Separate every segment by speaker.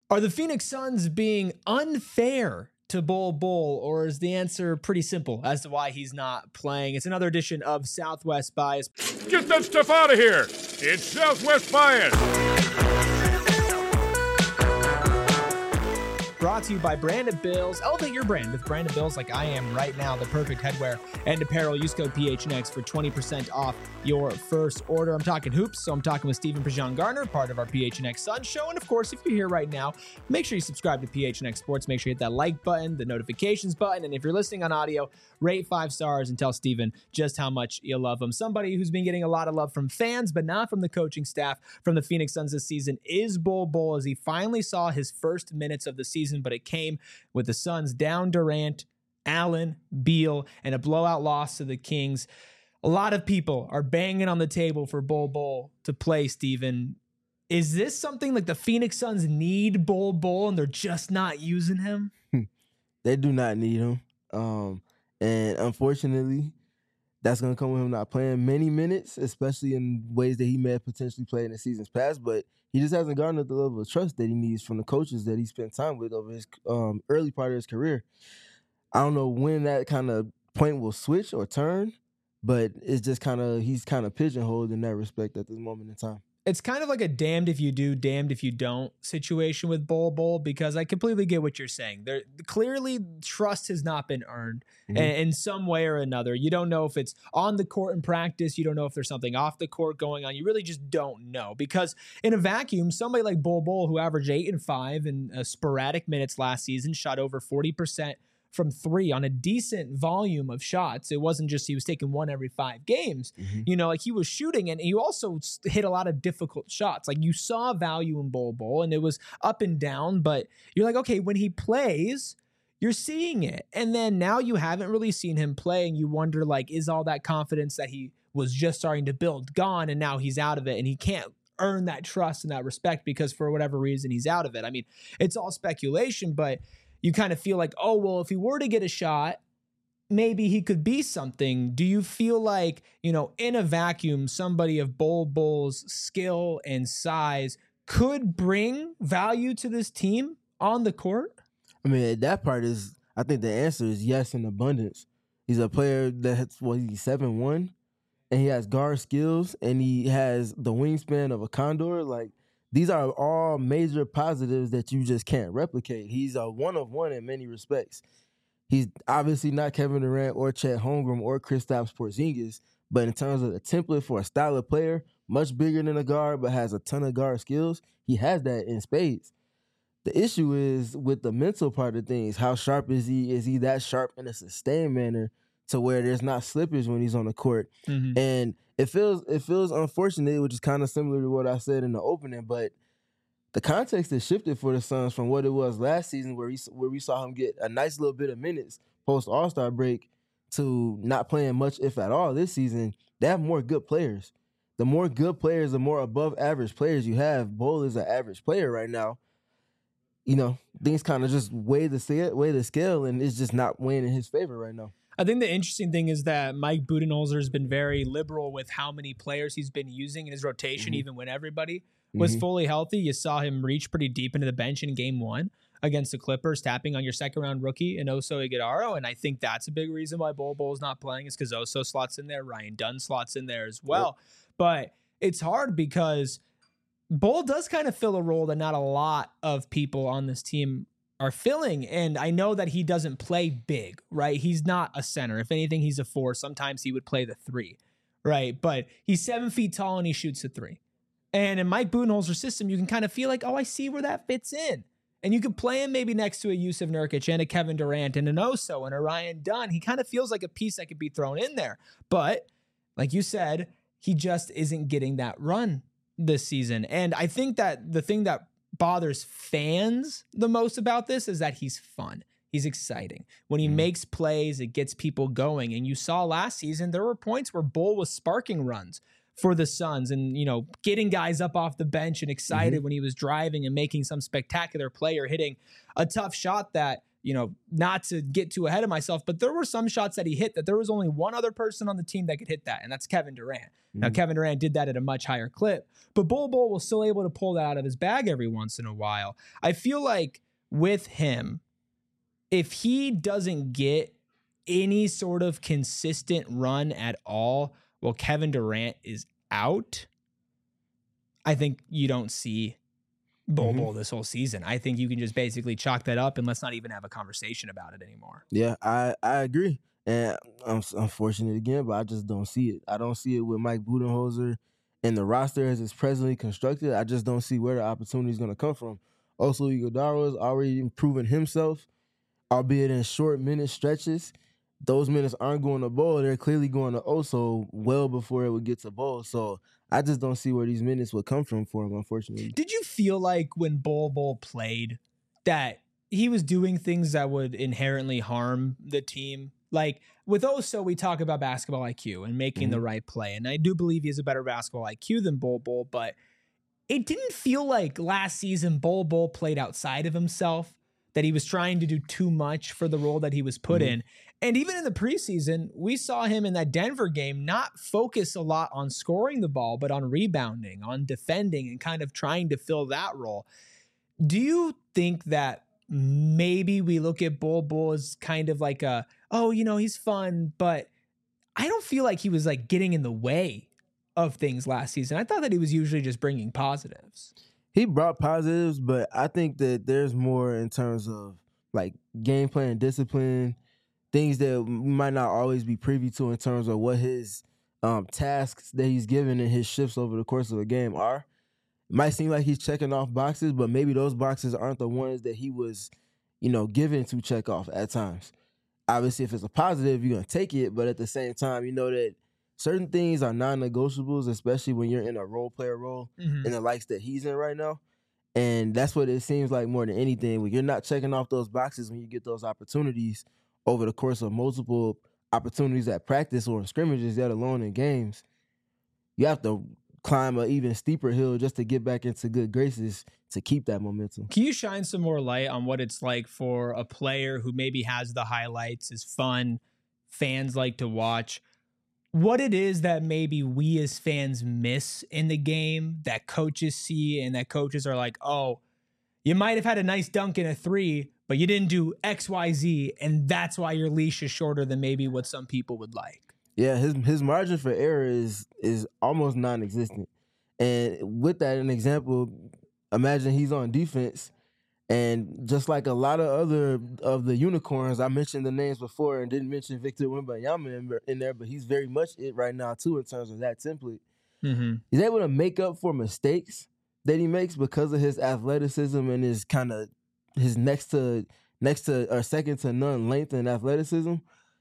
Speaker 1: Are the Phoenix Suns being unfair to Bol Bol, or is the answer pretty simple as to why he's not playing? It's another edition of Southwest Bias.
Speaker 2: Get that stuff out of here. It's Southwest Bias.
Speaker 1: Brought to you by Branded Bills. Elevate your brand with Branded Bills like I am right now. The perfect headwear and apparel. Use code PHNX for 20% off your first order. I'm talking hoops, so I'm talking with Stephen Prejean-Gardner, part of our PHNX Sun Show. And of course, if you're here right now, make sure you subscribe to PHNX Sports. Make sure you hit that like button, the notifications button. And if you're listening on audio, rate 5 stars and tell Stephen just how much you love him. Somebody who's been getting a lot of love from fans, but not from the coaching staff from the Phoenix Suns this season is Bol Bol, as he finally saw his first minutes of the season, but it came with the Suns down Durant, Allen, Beal, and a blowout loss to the Kings. A lot of people are banging on the table for Bol Bol to play, Steven. Is this something like the Phoenix Suns need Bol Bol and they're just not using him?
Speaker 3: They do not need him. And unfortunately, that's going to come with him not playing many minutes, especially in ways that he may have potentially played in the seasons past. But he just hasn't garnered the level of trust that he needs from the coaches that he spent time with over his early part of his career. I don't know when that kind of point will switch or turn, but it's just he's kind of pigeonholed in that respect at this moment in time.
Speaker 1: It's kind of like a damned if you do, damned if you don't situation with Bol Bol, because I completely get what you're saying. There clearly trust has not been earned in some way or another. You don't know if it's on the court in practice. You don't know if there's something off the court going on. You really just don't know, because in a vacuum, somebody like Bol Bol, who averaged 8 and 5 in sporadic minutes last season, shot over 40% from 3 on a decent volume of shots. It wasn't just he was taking 1 every 5 games. You know, like he was shooting, and he also hit a lot of difficult shots. Like you saw value in Bol Bol, and it was up and down, but you're like, okay, when he plays, you're seeing it. And then now you haven't really seen him play, and you wonder, like, is all that confidence that he was just starting to build gone, and now he's out of it, and he can't earn that trust and that respect because for whatever reason he's out of it. I mean, it's all speculation, but you kind of feel like, oh, well, if he were to get a shot, maybe he could be something. Do you feel like, you know, in a vacuum, somebody of Bol Bol's skill and size could bring value to this team on the court?
Speaker 3: I mean, that part is, I think the answer is yes in abundance. He's a player that's, he's 7'1", and he has guard skills, and he has the wingspan of a condor. Like, these are all major positives that you just can't replicate. He's a one-of-one in many respects. He's obviously not Kevin Durant or Chet Holmgren or Kristaps Porzingis, but in terms of the template for a style of player, much bigger than a guard but has a ton of guard skills, he has that in spades. The issue is with the mental part of things. How sharp is he? Is he that sharp in a sustained manner to where there's not slippage when he's on the court? And it feels unfortunate, which is kind of similar to what I said in the opening, but the context has shifted for the Suns from what it was last season, where we saw him get a nice little bit of minutes post All-Star break, to not playing much, if at all, this season. They have more good players. The more good players, the more above average players you have. Bol is an average player right now. You know, things kind of just weigh the scale, and it's just not weighing in his favor right now.
Speaker 1: I think the interesting thing is that Mike Budenholzer has been very liberal with how many players he's been using in his rotation, even when everybody was fully healthy. You saw him reach pretty deep into the bench in game 1 against the Clippers, tapping on your second-round rookie in Oso Ighodaro, and I think that's a big reason why Bol Bol's not playing, is because Oso slots in there, Ryan Dunn slots in there as well. But it's hard because Bol does kind of fill a role that not a lot of people on this team are filling. And I know that he doesn't play big, right? He's not a center. If anything, he's a 4. Sometimes he would play the 3, right? But he's 7 feet tall and he shoots a 3. And in Mike Budenholzer's system, you can kind of feel like, oh, I see where that fits in. And you could play him maybe next to a Jusuf Nurkic and a Kevin Durant and an Oso and a Ryan Dunn. He kind of feels like a piece that could be thrown in there. But like you said, he just isn't getting that run this season. And I think that the thing that bothers fans the most about this is that he's fun. He's exciting. When he makes plays, it gets people going. And you saw last season, there were points where Bol was sparking runs for the Suns and, you know, getting guys up off the bench and excited when he was driving and making some spectacular play or hitting a tough shot that not to get too ahead of myself, but there were some shots that he hit that there was only one other person on the team that could hit that, and that's Kevin Durant. Mm-hmm. Now, Kevin Durant did that at a much higher clip, but Bol Bol was still able to pull that out of his bag every once in a while. I feel like with him, if he doesn't get any sort of consistent run at all while Kevin Durant is out, I think you don't see Bol Bol this whole season. I think you can just basically chalk that up and let's not even have a conversation about it anymore.
Speaker 3: Yeah, I agree. And I'm unfortunate again, but I just don't see it. I don't see it with Mike Budenholzer and the roster as it's presently constructed. I just don't see where the opportunity is going to come from. Also, Iguodala has already proven himself, albeit in short minute stretches. Those minutes aren't going to Bol. They're clearly going to Oso well before it would get to Bol. So I just don't see where these minutes would come from for him, unfortunately.
Speaker 1: Did you feel like when Bol played that he was doing things that would inherently harm the team? Like with Oso, we talk about basketball IQ and making the right play. And I do believe he has a better basketball IQ than Bol, but it didn't feel like last season Bol played outside of himself, that he was trying to do too much for the role that he was put in. And even in the preseason, we saw him in that Denver game not focus a lot on scoring the ball, but on rebounding, on defending, and kind of trying to fill that role. Do you think that maybe we look at Bol as kind of like he's fun, but I don't feel like he was like getting in the way of things last season. I thought that he was usually just bringing positives.
Speaker 3: He brought positives, but I think that there's more in terms of like game plan, discipline, things that we might not always be privy to in terms of what his tasks that he's given and his shifts over the course of a game are. It might seem like he's checking off boxes, but maybe those boxes aren't the ones that he was, given to check off at times. Obviously, if it's a positive, you're going to take it, but at the same time, you know that certain things are non-negotiables, especially when you're in a role player role in the likes that he's in right now. And that's what it seems like more than anything. When you're not checking off those boxes when you get those opportunities over the course of multiple opportunities at practice or in scrimmages, let alone in games, you have to climb an even steeper hill just to get back into good graces to keep that momentum.
Speaker 1: Can you shine some more light on what it's like for a player who maybe has the highlights, is fun, fans like to watch, what it is that maybe we as fans miss in the game that coaches see and that coaches are like, oh, you might have had a nice dunk in a three, but you didn't do X, Y, Z, and that's why your leash is shorter than maybe what some people would like.
Speaker 3: Yeah, his margin for error is almost non-existent. And with that, an example, imagine he's on defense, and just like a lot of other of the unicorns, I mentioned the names before and didn't mention Victor Wembanyama in there, but he's very much it right now too in terms of that template. He's able to make up for mistakes that he makes because of his athleticism and his kind of his next to or second to none length and athleticism.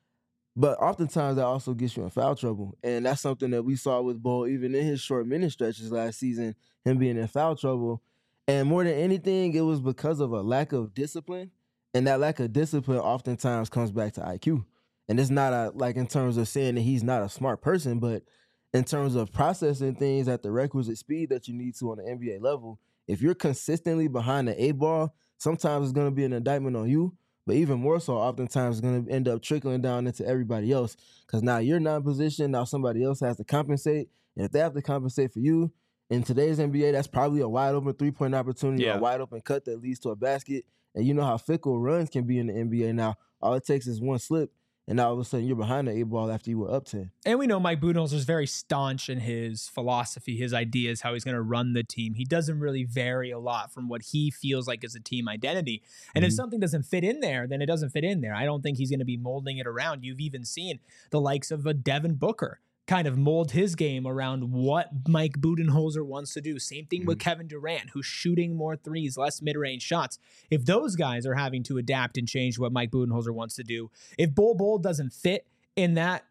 Speaker 3: But oftentimes that also gets you in foul trouble. And that's something that we saw with Bol even in his short minute stretches last season, him being in foul trouble. And more than anything, it was because of a lack of discipline. And that lack of discipline oftentimes comes back to IQ. And it's not like in terms of saying that he's not a smart person, but in terms of processing things at the requisite speed that you need to on the NBA level, if you're consistently behind the 8-ball, sometimes it's going to be an indictment on you. But even more so, oftentimes it's going to end up trickling down into everybody else because now you're not in position. Now somebody else has to compensate. And if they have to compensate for you, in today's NBA, that's probably a wide open three-point opportunity, a wide open cut that leads to a basket. And you know how fickle runs can be in the NBA now. All it takes is one slip, and all of a sudden you're behind the 8-ball after you were up 10.
Speaker 1: And we know Mike Budenholzer is very staunch in his philosophy, his ideas, how he's going to run the team. He doesn't really vary a lot from what he feels like is a team identity. And if something doesn't fit in there, then it doesn't fit in there. I don't think he's going to be molding it around. You've even seen the likes of a Devin Booker kind of mold his game around what Mike Budenholzer wants to do. Same thing with Kevin Durant, who's shooting more threes, less mid-range shots. If those guys are having to adapt and change what Mike Budenholzer wants to do, if Bol doesn't fit in that,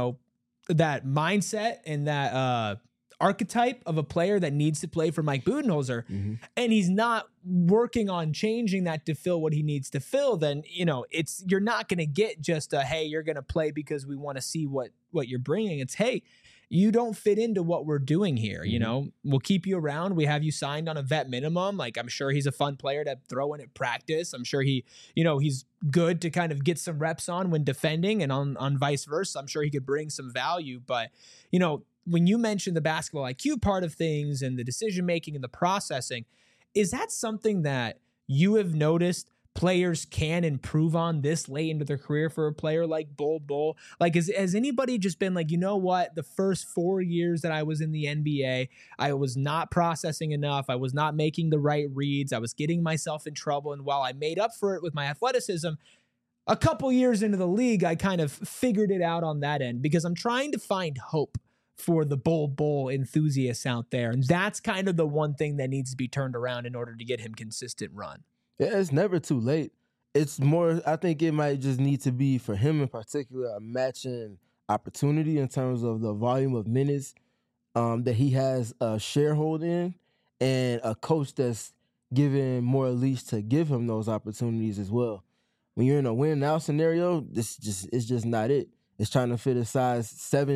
Speaker 1: that mindset and that archetype of a player that needs to play for Mike Budenholzer, and he's not working on changing that to fill what he needs to fill, then, you're not going to get just a, hey, you're going to play because we want to see what you're bringing. It's, hey, you don't fit into what we're doing here. You
Speaker 3: Mhm.
Speaker 1: know, we'll keep you around. We have you signed on a vet minimum. Like, I'm sure he's a fun player to throw in at practice. I'm sure he's good to kind of get some reps on when defending, and on vice versa. I'm sure he could bring some value. But, when you mentioned the basketball IQ part of things and the decision making and the processing, is that something that you have noticed players can improve on this late into their career for a player like Bol Bol? Like, has anybody just been like, you know what, the first 4 years that I was in the NBA, I was not processing enough. I was not making the right reads. I was getting myself in trouble. And while I made up for it with my athleticism, a couple years into the league, I kind of figured it out on that end, because I'm trying to find hope for the Bol Bol enthusiasts out there. And that's kind of the one thing that needs to be turned around in order to get him consistent run.
Speaker 3: Yeah, it's never too late. It's more, I think it might just need to be, for him in particular, a matching opportunity in terms of the volume of minutes that he has a sharehold in, and a coach that's given more leash to give him those opportunities as well. When you're in a win now scenario, it's just not it. It's trying to fit a size 7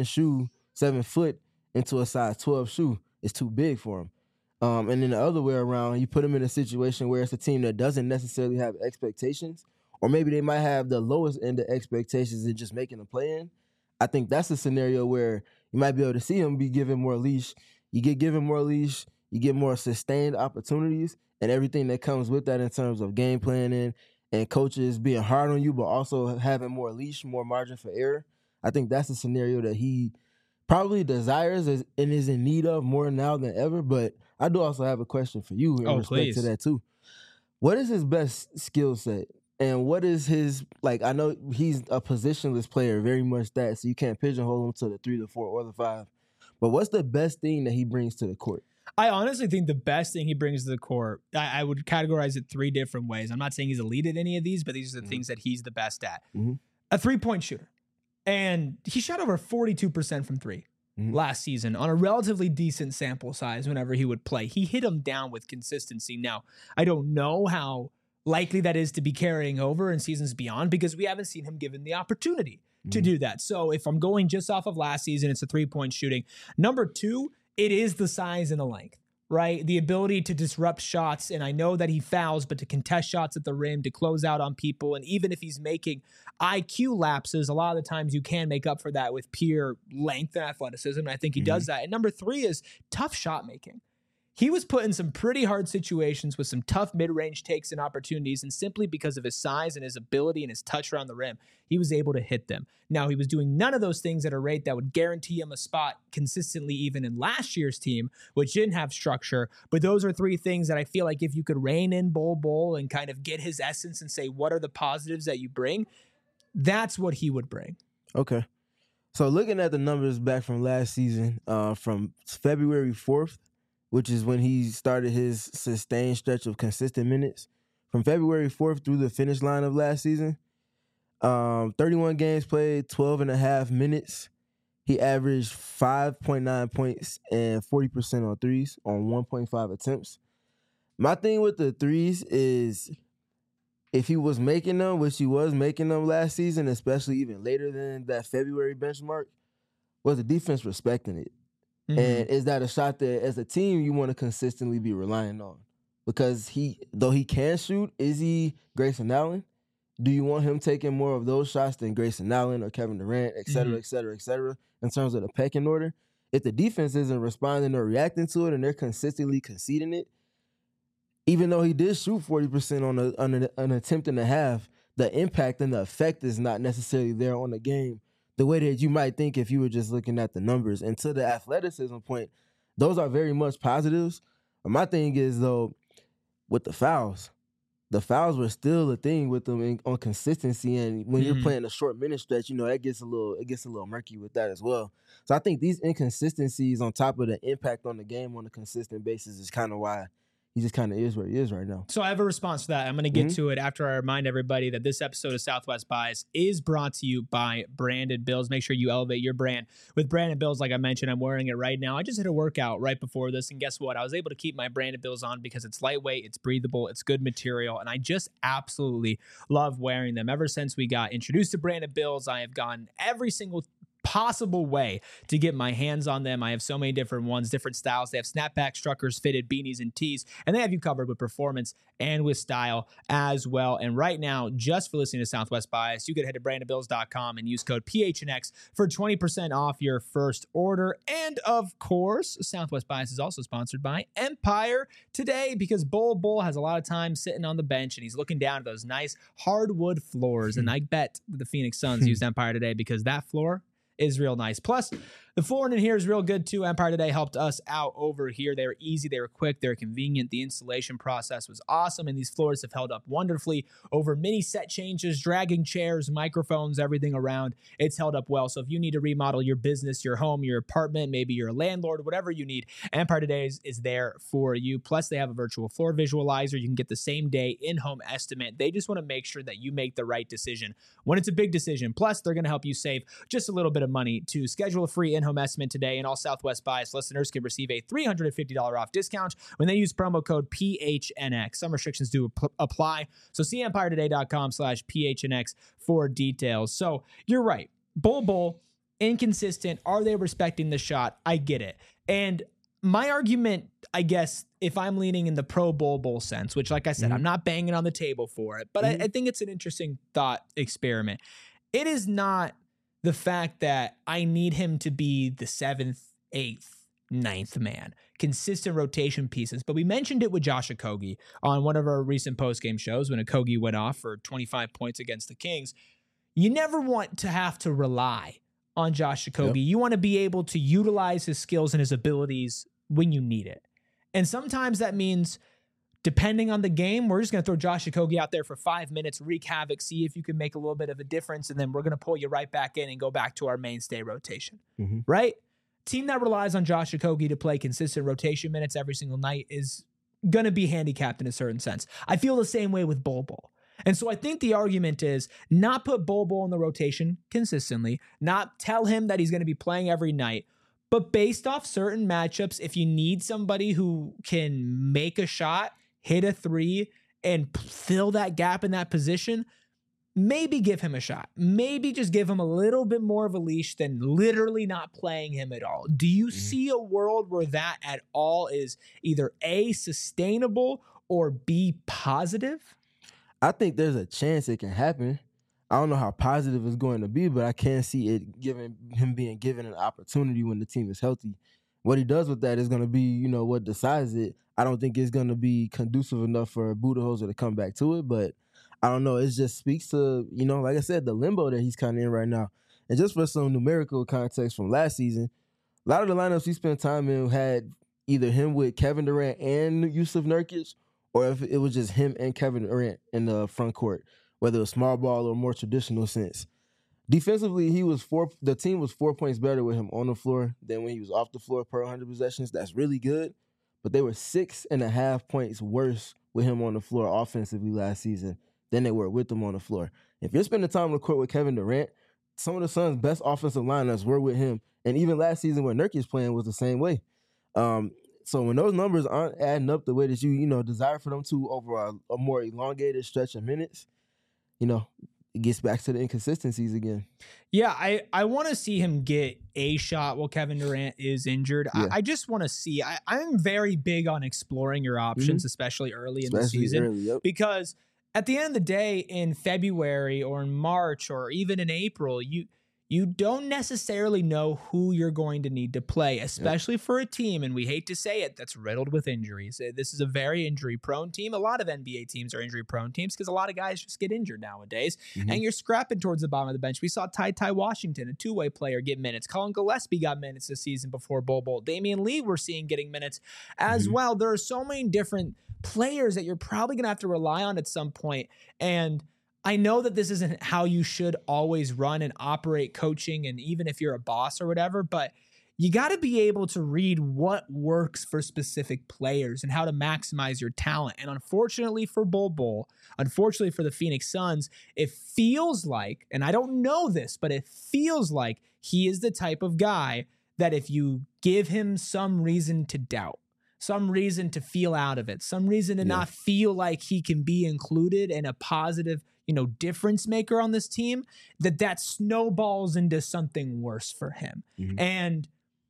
Speaker 3: foot into a size 12 shoe. It's too big for him. And then the other way around, you put him in a situation where it's a team that doesn't necessarily have expectations, or maybe they might have the lowest end of expectations and just making a play in. I think that's a scenario where you might be able to see him be given more leash. You get given more leash, you get more sustained opportunities, and everything that comes with that in terms of game planning and coaches being hard on you, but also having more leash, more margin for error. I think that's a scenario that he probably desires and is in need of more now than ever. But I do also have a question for you in respect to that too. What is his best skill set? And what is his, like, I know he's a positionless player, very much that, so you can't pigeonhole him to the 3, the 4, or the 5. But what's the best thing that he brings to the court?
Speaker 1: I honestly think the best thing he brings to the court, I would categorize it 3 different ways. I'm not saying he's elite at any of these, but these are the things that he's the best at. A 3-point shooter. And he shot over 42% from 3 last season on a relatively decent sample size whenever he would play. He hit them down with consistency. Now, I don't know how likely that is to be carrying over in seasons beyond, because we haven't seen him given the opportunity to do that. So if I'm going just off of last season, it's a 3-point shooting. Number 2, it is the size and the length, right? The ability to disrupt shots. And I know that he fouls, but to contest shots at the rim, to close out on people. And even if he's making IQ lapses, a lot of the times you can make up for that with pure length and athleticism. And I think he does that. And number 3 is tough shot making. He was put in some pretty hard situations with some tough mid-range takes and opportunities, and simply because of his size and his ability and his touch around the rim, he was able to hit them. Now, he was doing none of those things at a rate that would guarantee him a spot consistently even in last year's team, which didn't have structure. But those are 3 things that I feel like if you could rein in Bol Bol and kind of get his essence and say, what are the positives that you bring? That's what he would bring.
Speaker 3: Okay. So looking at the numbers back from last season, from February 4th, which is when he started his sustained stretch of consistent minutes, from February 4th through the finish line of last season, 31 games played, 12 and a half minutes. He averaged 5.9 points and 40% on threes on 1.5 attempts. My thing with the threes is, if he was making them, which he was making them last season, especially even later than that February benchmark, was the defense respecting it? And is that a shot that, as a team, you want to consistently be relying on? Because though he can shoot, is he Grayson Allen? Do you want him taking more of those shots than Grayson Allen or Kevin Durant, et cetera, et cetera, et cetera, in terms of the pecking order? If the defense isn't responding or reacting to it and they're consistently conceding it, even though he did shoot 40% on an attempt and a half, the impact and the effect is not necessarily there on the game the way that you might think if you were just looking at the numbers. And to the athleticism point, those are very much positives. But my thing is, though, with the fouls were still a thing with them on consistency. And when you're playing a short minute stretch, that gets a little murky with that as well. So I think these inconsistencies on top of the impact on the game on a consistent basis is kind of why he just kind of is where he is right now.
Speaker 1: So I have a response to that. I'm going to get to it after I remind everybody that this episode of Southwest Bias is brought to you by Branded Bills. Make sure you elevate your brand with Branded Bills. Like I mentioned, I'm wearing it right now. I just hit a workout right before this, and guess what? I was able to keep my Branded Bills on because it's lightweight, it's breathable, it's good material, and I just absolutely love wearing them. Ever since we got introduced to Branded Bills, I have gone every single possible way to get my hands on them. I have so many different ones, different styles. They have snapback, truckers, fitted, beanies, and tees, and they have you covered with performance and with style as well. And right now, just for listening to Southwest Bias, you could head to brandonbills.com and use code PHNX for 20% off your first order. And of course, Southwest Bias is also sponsored by Empire today, because Bull has a lot of time sitting on the bench and he's looking down at those nice hardwood floors. And I bet the Phoenix Suns used Empire today because that floor is real nice. Plus, the flooring in here is real good too. Empire today helped us out over here. They were easy, they were quick, they were convenient. The installation process was awesome, and these floors have held up wonderfully over many set changes, dragging chairs, microphones, everything around. It's held up well. So if you need to remodel your business, your home, your apartment, maybe you're a landlord, whatever you need, Empire today is there for you. Plus, they have a virtual floor visualizer. You can get the same day in-home estimate. They just want to make sure that you make the right decision when it's a big decision. Plus, they're going to help you save just a little bit of money. To schedule a free in-home estimate today, and all Southwest Bias listeners can receive a $350 off discount when they use promo code PHNX. Some restrictions do apply, so see EmpireToday.com/PHNX for details. So you're right. Bull, inconsistent. Are they respecting the shot? I get it. And my argument, I guess, if I'm leaning in the pro Bull sense, which, like I said, I'm not banging on the table for it, but I think it's an interesting thought experiment. It is not the fact that I need him to be the 7th, 8th, 9th man, consistent rotation pieces. But we mentioned it with Josh Okogie on one of our recent postgame shows when Okogie went off for 25 points against the Kings. You never want to have to rely on Josh Okogie. Yep. You want to be able to utilize his skills and his abilities when you need it. And sometimes that means, depending on the game, we're just going to throw Josh Okogie out there for 5 minutes, wreak havoc, see if you can make a little bit of a difference, and then we're going to pull you right back in and go back to our mainstay rotation, right? Team that relies on Josh Okogie to play consistent rotation minutes every single night is going to be handicapped in a certain sense. I feel the same way with Bull. And so I think the argument is not put Bull in the rotation consistently, not tell him that he's going to be playing every night, but based off certain matchups, if you need somebody who can make a shot, hit a three, and fill that gap in that position, maybe give him a shot. Maybe just give him a little bit more of a leash than literally not playing him at all. Do you see a world where that at all is either A, sustainable, or B, positive?
Speaker 3: I think there's a chance it can happen. I don't know how positive it's going to be, but I can see it being given an opportunity when the team is healthy. What he does with that is going to be, what decides it. I don't think it's going to be conducive enough for Budenholzer to come back to it, but I don't know. It just speaks to, like I said, the limbo that he's kind of in right now. And just for some numerical context from last season, a lot of the lineups he spent time in had either him with Kevin Durant and Yusuf Nurkic, or if it was just him and Kevin Durant in the front court, whether it was small ball or more traditional sense. Defensively, the team was 4 points better with him on the floor than when he was off the floor per 100 possessions. That's really good. But they were 6.5 points worse with him on the floor offensively last season than they were with him on the floor. If you're spending time on the court with Kevin Durant, some of the Suns' best offensive lineups were with him. And even last season when Nurkic playing was the same way. So when those numbers aren't adding up the way that you desire for them to over a more elongated stretch of minutes, it gets back to the inconsistencies again.
Speaker 1: Yeah, I want to see him get a shot while Kevin Durant is injured. Yeah. I just want to see. I'm very big on exploring your options, especially early in the season. Because at the end of the day, in February or in March or even in April, you don't necessarily know who you're going to need to play, especially for a team, and we hate to say it, that's riddled with injuries. This is a very injury-prone team. A lot of NBA teams are injury-prone teams because a lot of guys just get injured nowadays, and you're scrapping towards the bottom of the bench. We saw Ty Washington, a two-way player, get minutes. Colin Gillespie got minutes this season before Bull. Damian Lee we're seeing getting minutes as well. There are so many different players that you're probably going to have to rely on at some point, and I know that this isn't how you should always run and operate coaching, and even if you're a boss or whatever, but you got to be able to read what works for specific players and how to maximize your talent. And unfortunately for Bull, unfortunately for the Phoenix Suns, it feels like, and I don't know this, but it feels like he is the type of guy that if you give him some reason to doubt, some reason to feel out of it, some reason to not feel like he can be included and a positive, difference maker on this team, that snowballs into something worse for him. Mm-hmm. And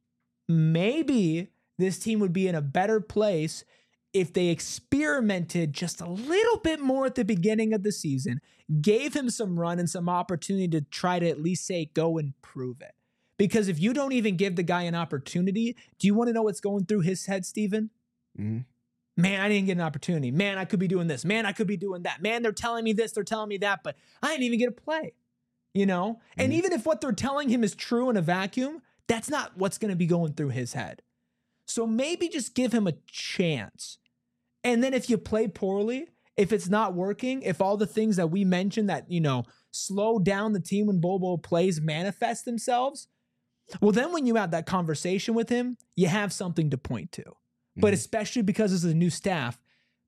Speaker 1: maybe this team would be in a better place if they experimented just a little bit more at the beginning of the season, gave him some run and some opportunity to try to at least say, go and prove it. Because if you don't even give the guy an opportunity, do you want to know what's going through his head, Steven? Mm-hmm. Man, I didn't get an opportunity. Man, I could be doing this. Man, I could be doing that. Man, they're telling me this, they're telling me that, but I didn't even get a play, And even if what they're telling him is true in a vacuum, that's not what's going to be going through his head. So maybe just give him a chance. And then if you play poorly, if it's not working, if all the things that we mentioned that, slow down the team when Bol Bol plays manifest themselves, well, then when you have that conversation with him, you have something to point to. Mm-hmm. But especially because this is a new staff,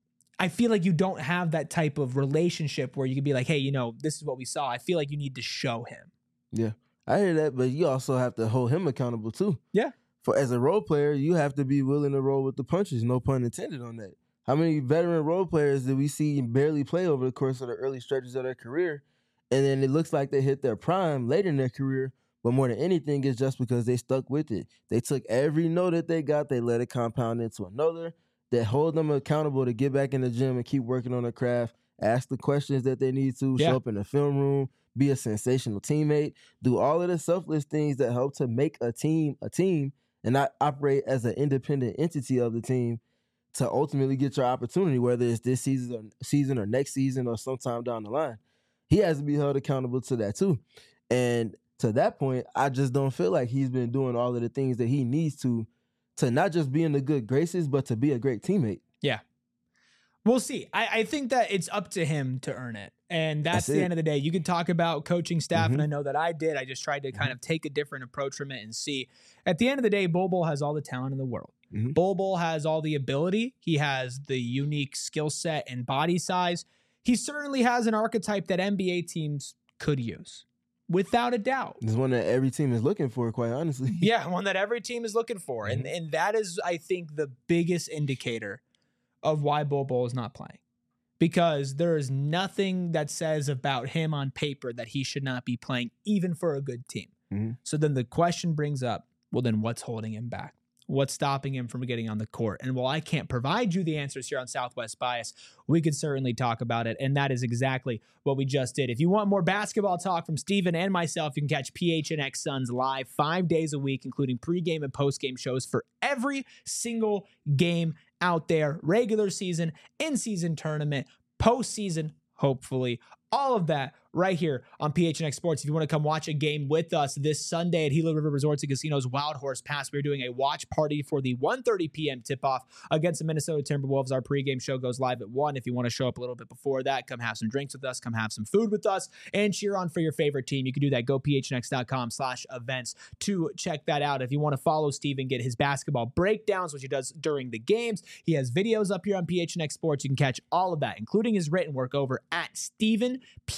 Speaker 1: I feel like you don't have that type of relationship where you can be like, hey, this is what we saw. I feel like you need to show him.
Speaker 3: Yeah, I hear that, but you also have to hold him accountable too.
Speaker 1: Yeah.
Speaker 3: For as a role player, you have to be willing to roll with the punches. No pun intended on that. How many veteran role players did we see barely play over the course of the early stretches of their career? And then it looks like they hit their prime later in their career, but more than anything, it's just because they stuck with it. They took every no that they got, they let it compound into another, that hold them accountable to get back in the gym and keep working on their craft, ask the questions that they need to, show up in the film room, be a sensational teammate, do all of the selfless things that help to make a team, and not operate as an independent entity of the team to ultimately get your opportunity, whether it's this season or next season or sometime down the line. He has to be held accountable to that too. And to that point, I just don't feel like he's been doing all of the things that he needs to not just be in the good graces, but to be a great teammate.
Speaker 1: Yeah. We'll see. I think that it's up to him to earn it. And that's the end of the day. You can talk about coaching staff, and I know that I did. I just tried to kind of take a different approach from it and see. At the end of the day, Bol Bol has all the talent in the world. Mm-hmm. Bol Bol has all the ability. He has the unique skill set and body size. He certainly has an archetype that NBA teams could use, without a doubt.
Speaker 3: It's one that every team is looking for, quite honestly.
Speaker 1: Yeah, one that every team is looking for. Mm-hmm. And that is, I think, the biggest indicator of why Bol Bol is not playing. Because there is nothing that says about him on paper that he should not be playing, even for a good team. Mm-hmm. So then the question brings up, well, then what's holding him back? What's stopping him from getting on the court? And while I can't provide you the answers here on Southwest Bias, we could certainly talk about it. And that is exactly what we just did. If you want more basketball talk from Steven and myself, you can catch PHNX Suns live 5 days a week, including pregame and postgame shows for every single game out there. Regular season, in-season tournament, postseason, hopefully. All of that right here on PHNX Sports. If you want to come watch a game with us this Sunday at Gila River Resorts and Casinos Wild Horse Pass, we're doing a watch party for the 1:30 p.m. tip-off against the Minnesota Timberwolves. Our pregame show goes live at 1. If you want to show up a little bit before that, come have some drinks with us, come have some food with us, and cheer on for your favorite team. You can do that. Go phnx.com/events to check that out. If you want to follow Steve and get his basketball breakdowns, which he does during the games, he has videos up here on PHNX Sports. You can catch all of that, including his written work over at Steven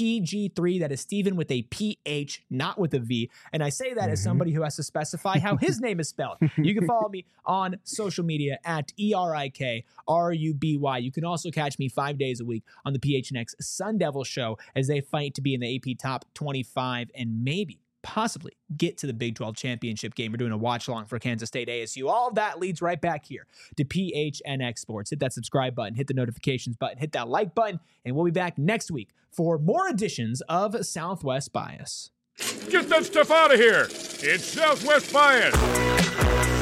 Speaker 1: PG3. That is Steven with a PH, not with a V. And I say that as somebody who has to specify how his name is spelled. You can follow me on social media at ERIKRUBY. You can also catch me 5 days a week on the PHNX Sun Devil Show as they fight to be in the AP Top 25 and possibly get to the Big 12 championship game. We're doing a watch along for Kansas State ASU. All of that leads right back here to PHNX Sports. Hit that subscribe button, hit the notifications button, hit that like button, and we'll be back next week for more editions of Southwest Bias.
Speaker 2: Get that stuff out of here. It's Southwest Bias.